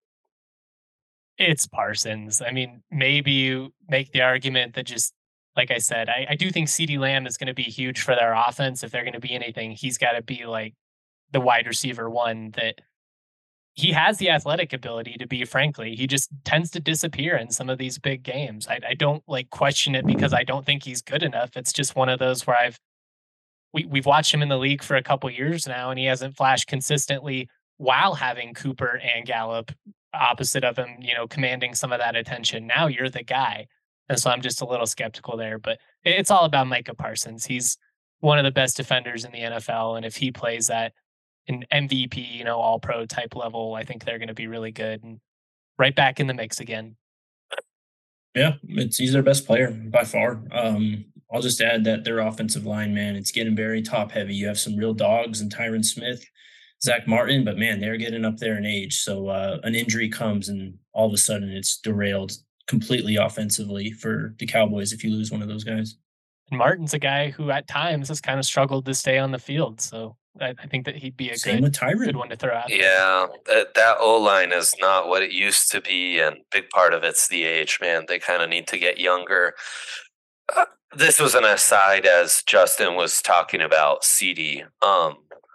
It's Parsons. I mean, maybe you make the argument that just, like I said, I, I do think CeeDee Lamb is going to be huge for their offense. If they're going to be anything, he's got to be like the wide receiver one that he has the athletic ability to be, frankly. He just tends to disappear in some of these big games. I, I don't like question it because I don't think he's good enough. It's just one of those where I've we, we've watched him in the league for a couple years now, and he hasn't flashed consistently while having Cooper and Gallup opposite of him, you know, commanding some of that attention. Now you're the guy. And so I'm just a little skeptical there, but it's all about Micah Parsons. He's one of the best defenders in the N F L. And if he plays at an M V P, you know, all pro type level, I think they're going to be really good and right back in the mix again. Yeah, it's he's their best player by far. Um, I'll just add that their offensive line, man, it's getting very top heavy. You have some real dogs and Tyron Smith, Zach Martin, but man, they're getting up there in age. So uh, an injury comes and all of a sudden it's derailed completely offensively for the Cowboys if you lose one of those guys. And Martin's a guy who at times has kind of struggled to stay on the field. So I, I think that he'd be a Same good with good Tyron. one to throw out there. Yeah, that, that O line is not what it used to be, and big part of it's the age, man. They kind of need to get younger. Uh, this was an aside as Justin was talking about C D. Um,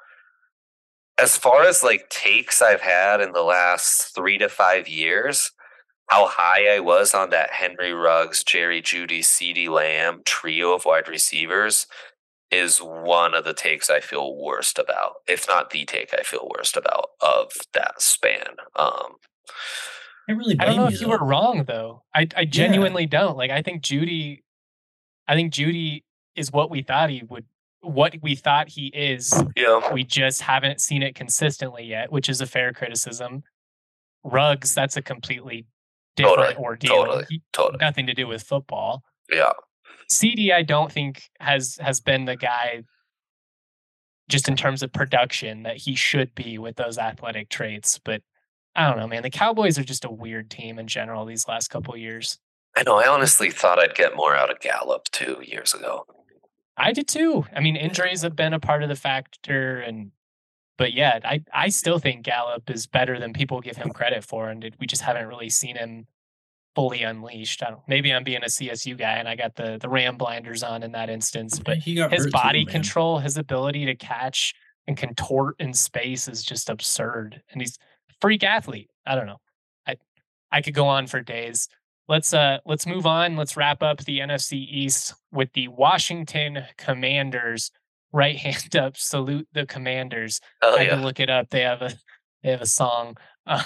as far as like takes I've had in the last three to five years, how high I was on that Henry Ruggs, Jerry Jeudy, CeeDee Lamb trio of wide receivers is one of the takes I feel worst about, if not the take I feel worst about of that span. Um, I really I don't blame know you if you though. were wrong though. I I genuinely don't. Like I think Judy I think Judy is what we thought he would what we thought he is. yeah, We just haven't seen it consistently yet, which is a fair criticism. Ruggs, that's a completely different totally, ordeal. totally, He- totally. Nothing to do with football. Yeah, C D, I don't think has has been the guy just in terms of production that he should be with those athletic traits. But I don't know, man. The Cowboys are just a weird team in general these last couple years. I know. I honestly thought I'd get more out of Gallup two years ago. I did too. I mean, injuries have been a part of the factor, and but yeah, I I still think Gallup is better than people give him credit for, and it, we just haven't really seen him fully unleashed. I don't. Maybe I'm being a C S U guy and I got the the Ram blinders on in that instance, but He got his hurt body too, man. control, his ability to catch and contort in space is just absurd, and he's a freak athlete. I don't know. I I could go on for days. Let's uh let's move on. Let's wrap up the N F C East with the Washington Commanders. Right hand up, salute the Commanders. Hell I had to yeah. look it up. They have a they have a song. Uh,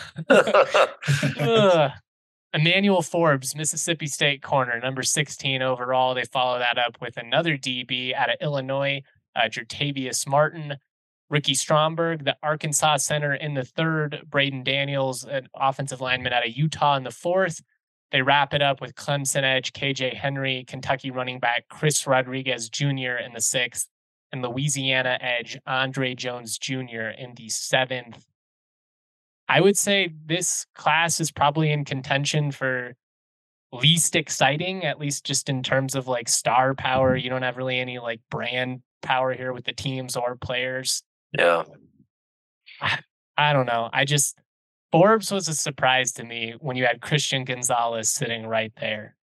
ugh. Emmanuel Forbes, Mississippi State corner, number sixteen overall. They follow that up with another D B out of Illinois, uh, Jertavius Martin. Ricky Stromberg, the Arkansas center in the third. Braden Daniels, an offensive lineman out of Utah in the fourth. They wrap it up with Clemson edge K J Henry, Kentucky running back Chris Rodriguez Junior in the sixth, and Louisiana edge Andre Jones Junior in the seventh. I would say this class is probably in contention for least exciting, at least just in terms of like star power. You don't have really any like brand power here with the teams or players. Yeah. I, I don't know. I just, Forbes was a surprise to me when you had Christian Gonzalez sitting right there.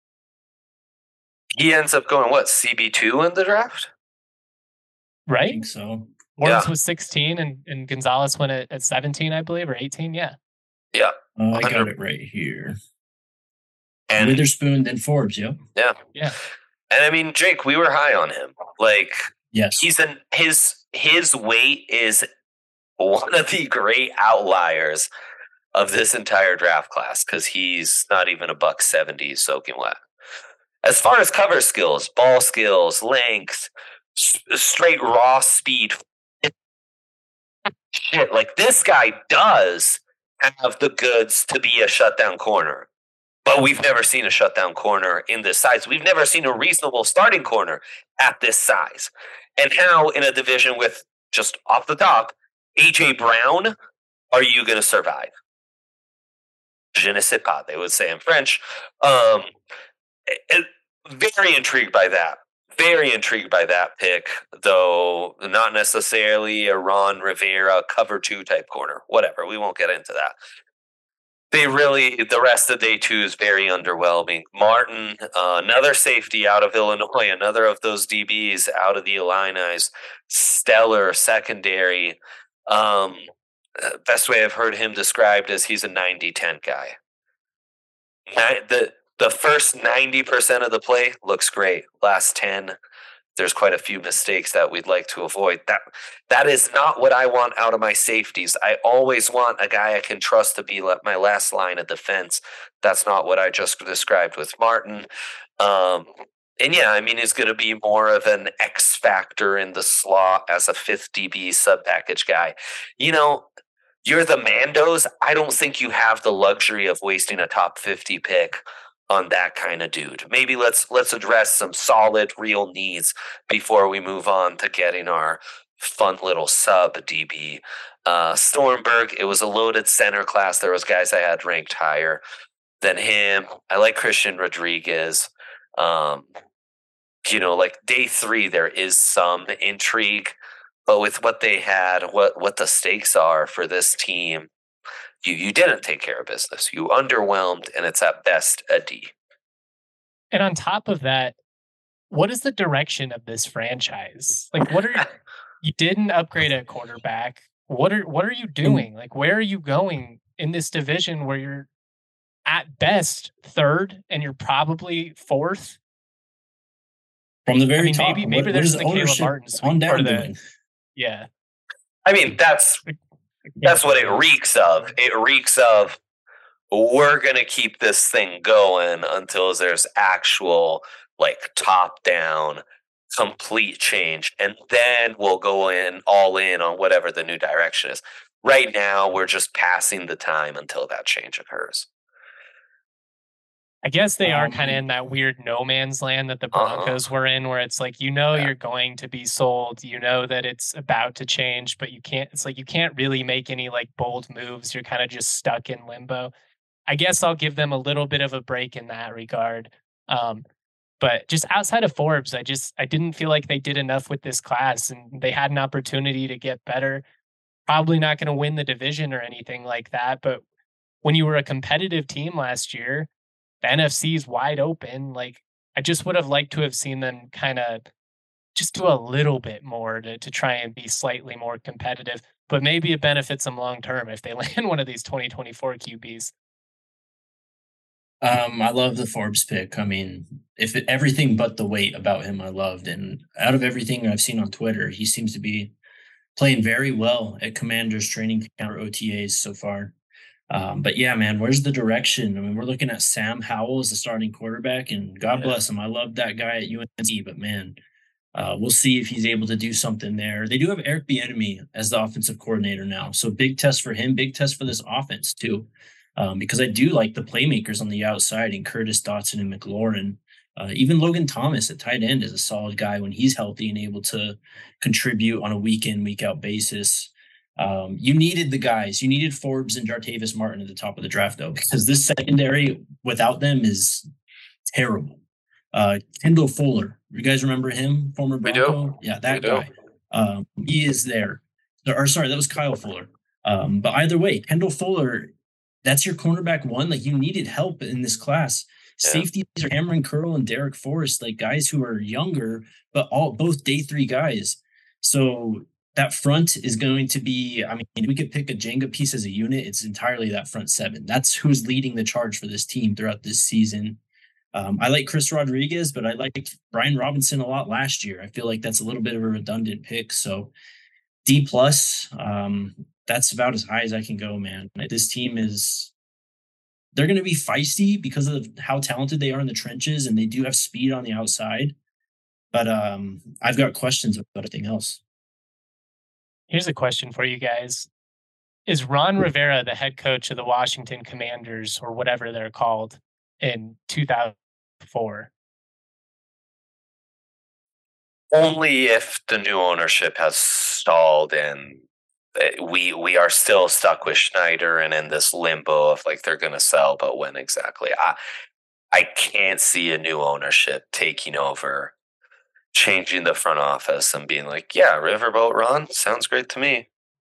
He ends up going, what, C B two in the draft? I Right? think so. Forbes Yeah. was sixteen and, and Gonzalez went at, at seventeen, I believe, or eighteen. Yeah. Yeah. Uh, I got Under- it right here. And Witherspoon, then Forbes. Yep. yeah. Yeah. And I mean, Jake, we were high on him. Like, Yes. he's an his his weight is one of the great outliers of this entire draft class because he's not even a buck seventy soaking wet. As far as cover skills, ball skills, length, s- straight raw speed, shit, like this guy does have the goods to be a shutdown corner. But we've never seen a shutdown corner in this size. We've never seen a reasonable starting corner at this size. And how in a division with, just off the top, A J Brown, are you going to survive? Je ne sais pas, they would say in French. Um, it, very intrigued by that. Very intrigued by that pick, though not necessarily a Ron Rivera cover two type corner. Whatever, we won't get into that. They really, the rest of day two is very underwhelming. Martin, uh, another safety out of Illinois, another of those D Bs out of the Illini's, stellar secondary. Um, best way I've heard him described as he's a ninety ten guy. The, the first ninety percent of the play looks great. Last ten, there's quite a few mistakes that we'd like to avoid. That that is not what I want out of my safeties. I always want a guy I can trust to be my last line of defense. That's not what I just described with Martin. Um, and yeah, I mean, he's going to be more of an X factor in the slot as a fifth D B sub package guy. You know, you're the Mandos. I don't think you have the luxury of wasting a top fifty pick on that kind of dude. Maybe let's let's address some solid, real needs before we move on to getting our fun little sub D B. Uh, Stormberg, it was a loaded center class. There was guys I had ranked higher than him. I like Christian Rodriguez. Um, you know, like day three, there is some intrigue, but with what they had, what what the stakes are for this team, you you didn't take care of business. You underwhelmed, and it's at best a D. And on top of that, what is the direction of this franchise? Like, what are you didn't upgrade at quarterback? What are what are you doing? Like, where are you going in this division where you're at best third and you're probably fourth? From the very I mean, top, maybe maybe what, there's what the Caleb ownership Martin on sweep or down the doing? yeah. I mean, that's that's what it reeks of. It reeks of we're gonna keep this thing going until there's actual like top down complete change, and then we'll go in all in on whatever the new direction is. Right now, we're just passing the time until that change occurs. I guess they are Um, kind of in that weird no man's land that the Uh-huh. Broncos were in, where it's like, you know, Yeah. you're going to be sold, you know that it's about to change, but you can't, it's like you can't really make any like bold moves. You're kind of just stuck in limbo. I guess I'll give them a little bit of a break in that regard. Um, but just outside of Forbes, I just I didn't feel like they did enough with this class, and they had an opportunity to get better. Probably not going to win the division or anything like that, but when you were a competitive team last year, the N F C is wide open. Like, I just would have liked to have seen them kind of just do a little bit more to, to try and be slightly more competitive. But maybe it benefits them long term if they land one of these twenty twenty-four Q Bs. Um, I love the Forbes pick. I mean, if it, everything but the weight about him, I loved. And out of everything I've seen on Twitter, he seems to be playing very well at Commanders training camp or O T As so far. Um, but yeah, man, where's the direction? I mean, we're looking at Sam Howell as the starting quarterback, and God Yeah. bless him. I love that guy at U N C, but man, uh, we'll see if he's able to do something there. They do have Eric Bieniemy as the offensive coordinator now, so big test for him, big test for this offense too, um, because I do like the playmakers on the outside in Curtis Dotson and McLaurin. Uh, even Logan Thomas at tight end is a solid guy when he's healthy and able to contribute on a week in, week out basis. Um, you needed the guys. You needed Forbes and Jartavis Martin at the top of the draft, though, because this secondary without them is terrible. Uh, Kendall Fuller, you guys remember him, former We do. Bronco? Yeah, that We do. guy. Um, he is there. Or sorry, that was Kyle Fuller. Um, but either way, Kendall Fuller, that's your cornerback one. Like, you needed help in this class. Yeah. Safeties are Cameron Curl and Derek Forrest, like guys who are younger, but all both day three guys. So that front is going to be, I mean, we could pick a Jenga piece as a unit. It's entirely that front seven. That's who's leading the charge for this team throughout this season. Um, I like Chris Rodriguez, but I liked Brian Robinson a lot last year. I feel like that's a little bit of a redundant pick. So D plus, um, that's about as high as I can go, man. This team is, they're going to be feisty because of how talented they are in the trenches, and they do have speed on the outside. But um, I've got questions about everything else. Here's a question for you guys. Is Ron Rivera the head coach of the Washington Commanders, or whatever they're called, in two thousand four? Only if the new ownership has stalled and we we are still stuck with Schneider and in this limbo of like they're going to sell, but when exactly? I I can't see a new ownership taking over, changing the front office and being like, yeah, Riverboat Ron sounds great to me.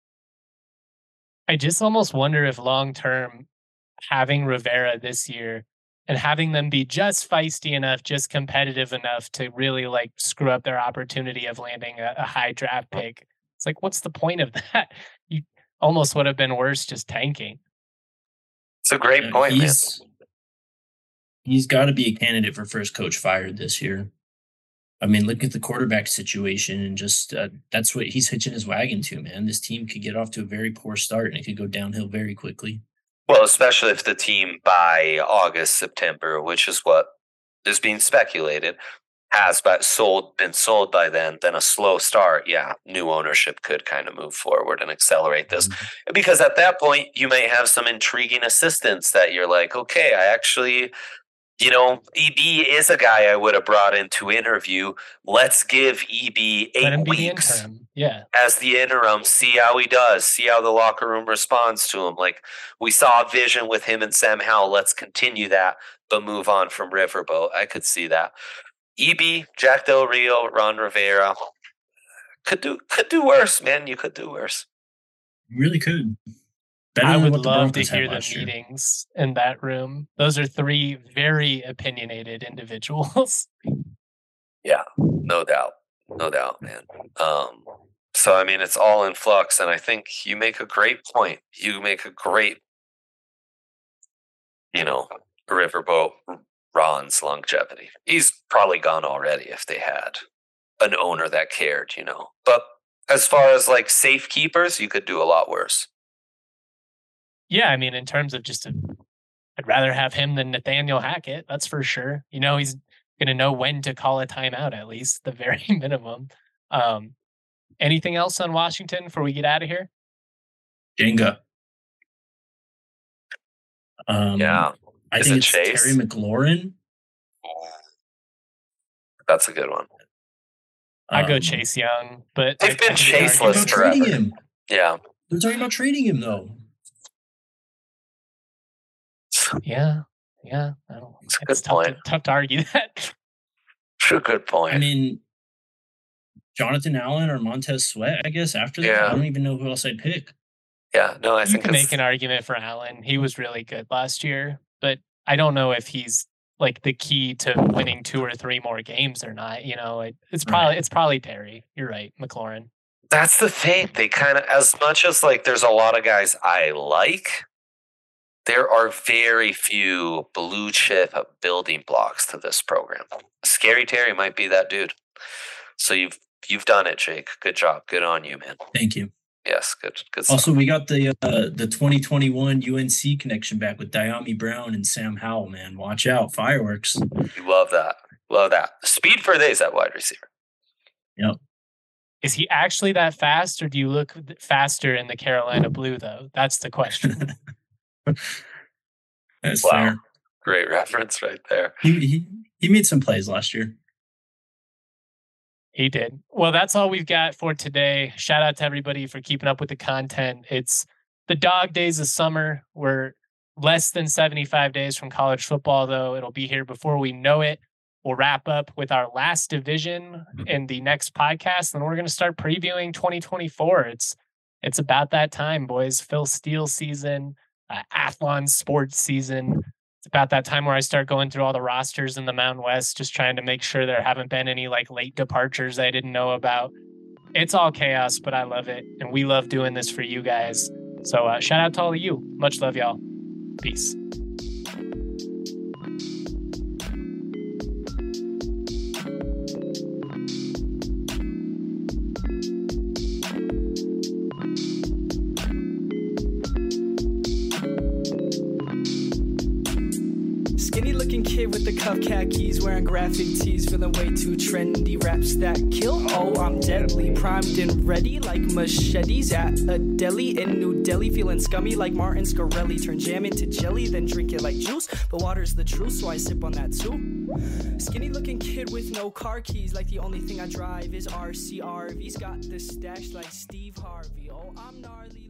I just almost wonder if long term, having Rivera this year and having them be just feisty enough, just competitive enough to really like screw up their opportunity of landing a, a high draft pick. It's like, what's the point of that? You almost would have been worse just tanking. It's a great Uh, point, man. he's he's got to be a candidate for first coach fired this year. I mean, look at the quarterback situation, and just uh, that's what he's hitching his wagon to, man. This team could get off to a very poor start, and it could go downhill very quickly. Well, especially if the team by August, September, which is what is being speculated, has but sold been sold by then, then a slow start, yeah, new ownership could kind of move forward and accelerate this. Mm-hmm. Because at that point, you may have some intriguing assistants that you're like, okay, I actually You know, E B is a guy I would have brought in to interview. Let's give E B eight Let him be weeks the interim. Yeah. as the interim, see how he does, see how the locker room responds to him. Like, we saw a vision with him and Sam Howell. Let's continue that, but move on from Riverboat. I could see that. E B, Jack Del Rio, Ron Rivera could do could do worse, man. You could do worse. You really could. Better I than would what the love to Broncos had hear the last year. meetings in that room. Those are three very opinionated individuals. Yeah, no doubt. No doubt, man. Um, so, I mean, it's all in flux, and I think you make a great point. You make a great, you know, Riverboat Ron's longevity. He's probably gone already if they had an owner that cared, you know. But as far as like safekeepers, you could do a lot worse. Yeah, I mean, in terms of just, a, I'd rather have him than Nathaniel Hackett. That's for sure. You know, he's going to know when to call a timeout, at least the very minimum. Um, anything else on Washington before we get out of here? Jenga. Um, Yeah. I Is think it it's Chase? Terry McLaurin. That's a good one. I go Um, Chase Young, but They've I- been I can They're Chaseless talking argue- about trading forever. him. Yeah. They're talking about trading him though. Yeah, yeah. I don't, It's a it's good tough to, point. tough to argue that. True, good point. I mean, Jonathan Allen or Montez Sweat, I guess, after that. Yeah. I don't even know who else I'd pick. yeah, no, I You think can it's, make an argument for Allen. He was really good last year, but I don't know if he's like the key to winning two or three more games or not. You know, it, it's probably Right. it's probably Terry. You're right, McLaurin. that's the thing. They kind of, as much as like there's a lot of guys I like, there are very few blue chip building blocks to this program. Scary Terry might be that dude. So you've you've done it, Jake. Good job. Good on you, man. Thank you. Yes, good good stuff. Also, we got the uh, the twenty twenty-one U N C connection back with Diami Brown and Sam Howell, man. Watch out. Fireworks. You love that. Love that. Speed for days at wide receiver. Is he actually that fast, or do you look faster in the Carolina blue? Though that's the question. That's Wow. fair. Great reference right there. He, he he made some plays last year. He did. Well, that's all we've got for today. Shout out to everybody for keeping up with the content. It's the dog days of summer. We're less than seventy-five days from college football, though. It'll be here before we know it. We'll wrap up with our last division in the next podcast, and we're going to start previewing twenty twenty-four. It's it's about that time, boys. Phil Steele season, uh, Athlon sports season. It's about that time where I start going through all the rosters in the Mountain West, just trying to make sure there haven't been any like late departures I didn't know about. It's all chaos, but I love it. And we love doing this for you guys. So uh, shout out to all of you. Much love, y'all. Peace. Skinny looking kid with the cuff khakis, wearing graphic tees, feeling way too trendy. Raps that kill, oh I'm deadly, primed and ready like machetes at a deli in New Delhi. Feeling scummy like Martin Scarelli, turn jam into jelly, then drink it like juice. But water's the truth, so I sip on that too. Skinny looking kid with no car keys, like the only thing I drive is R C R V's. Got the stash like Steve Harvey, oh I'm gnarly.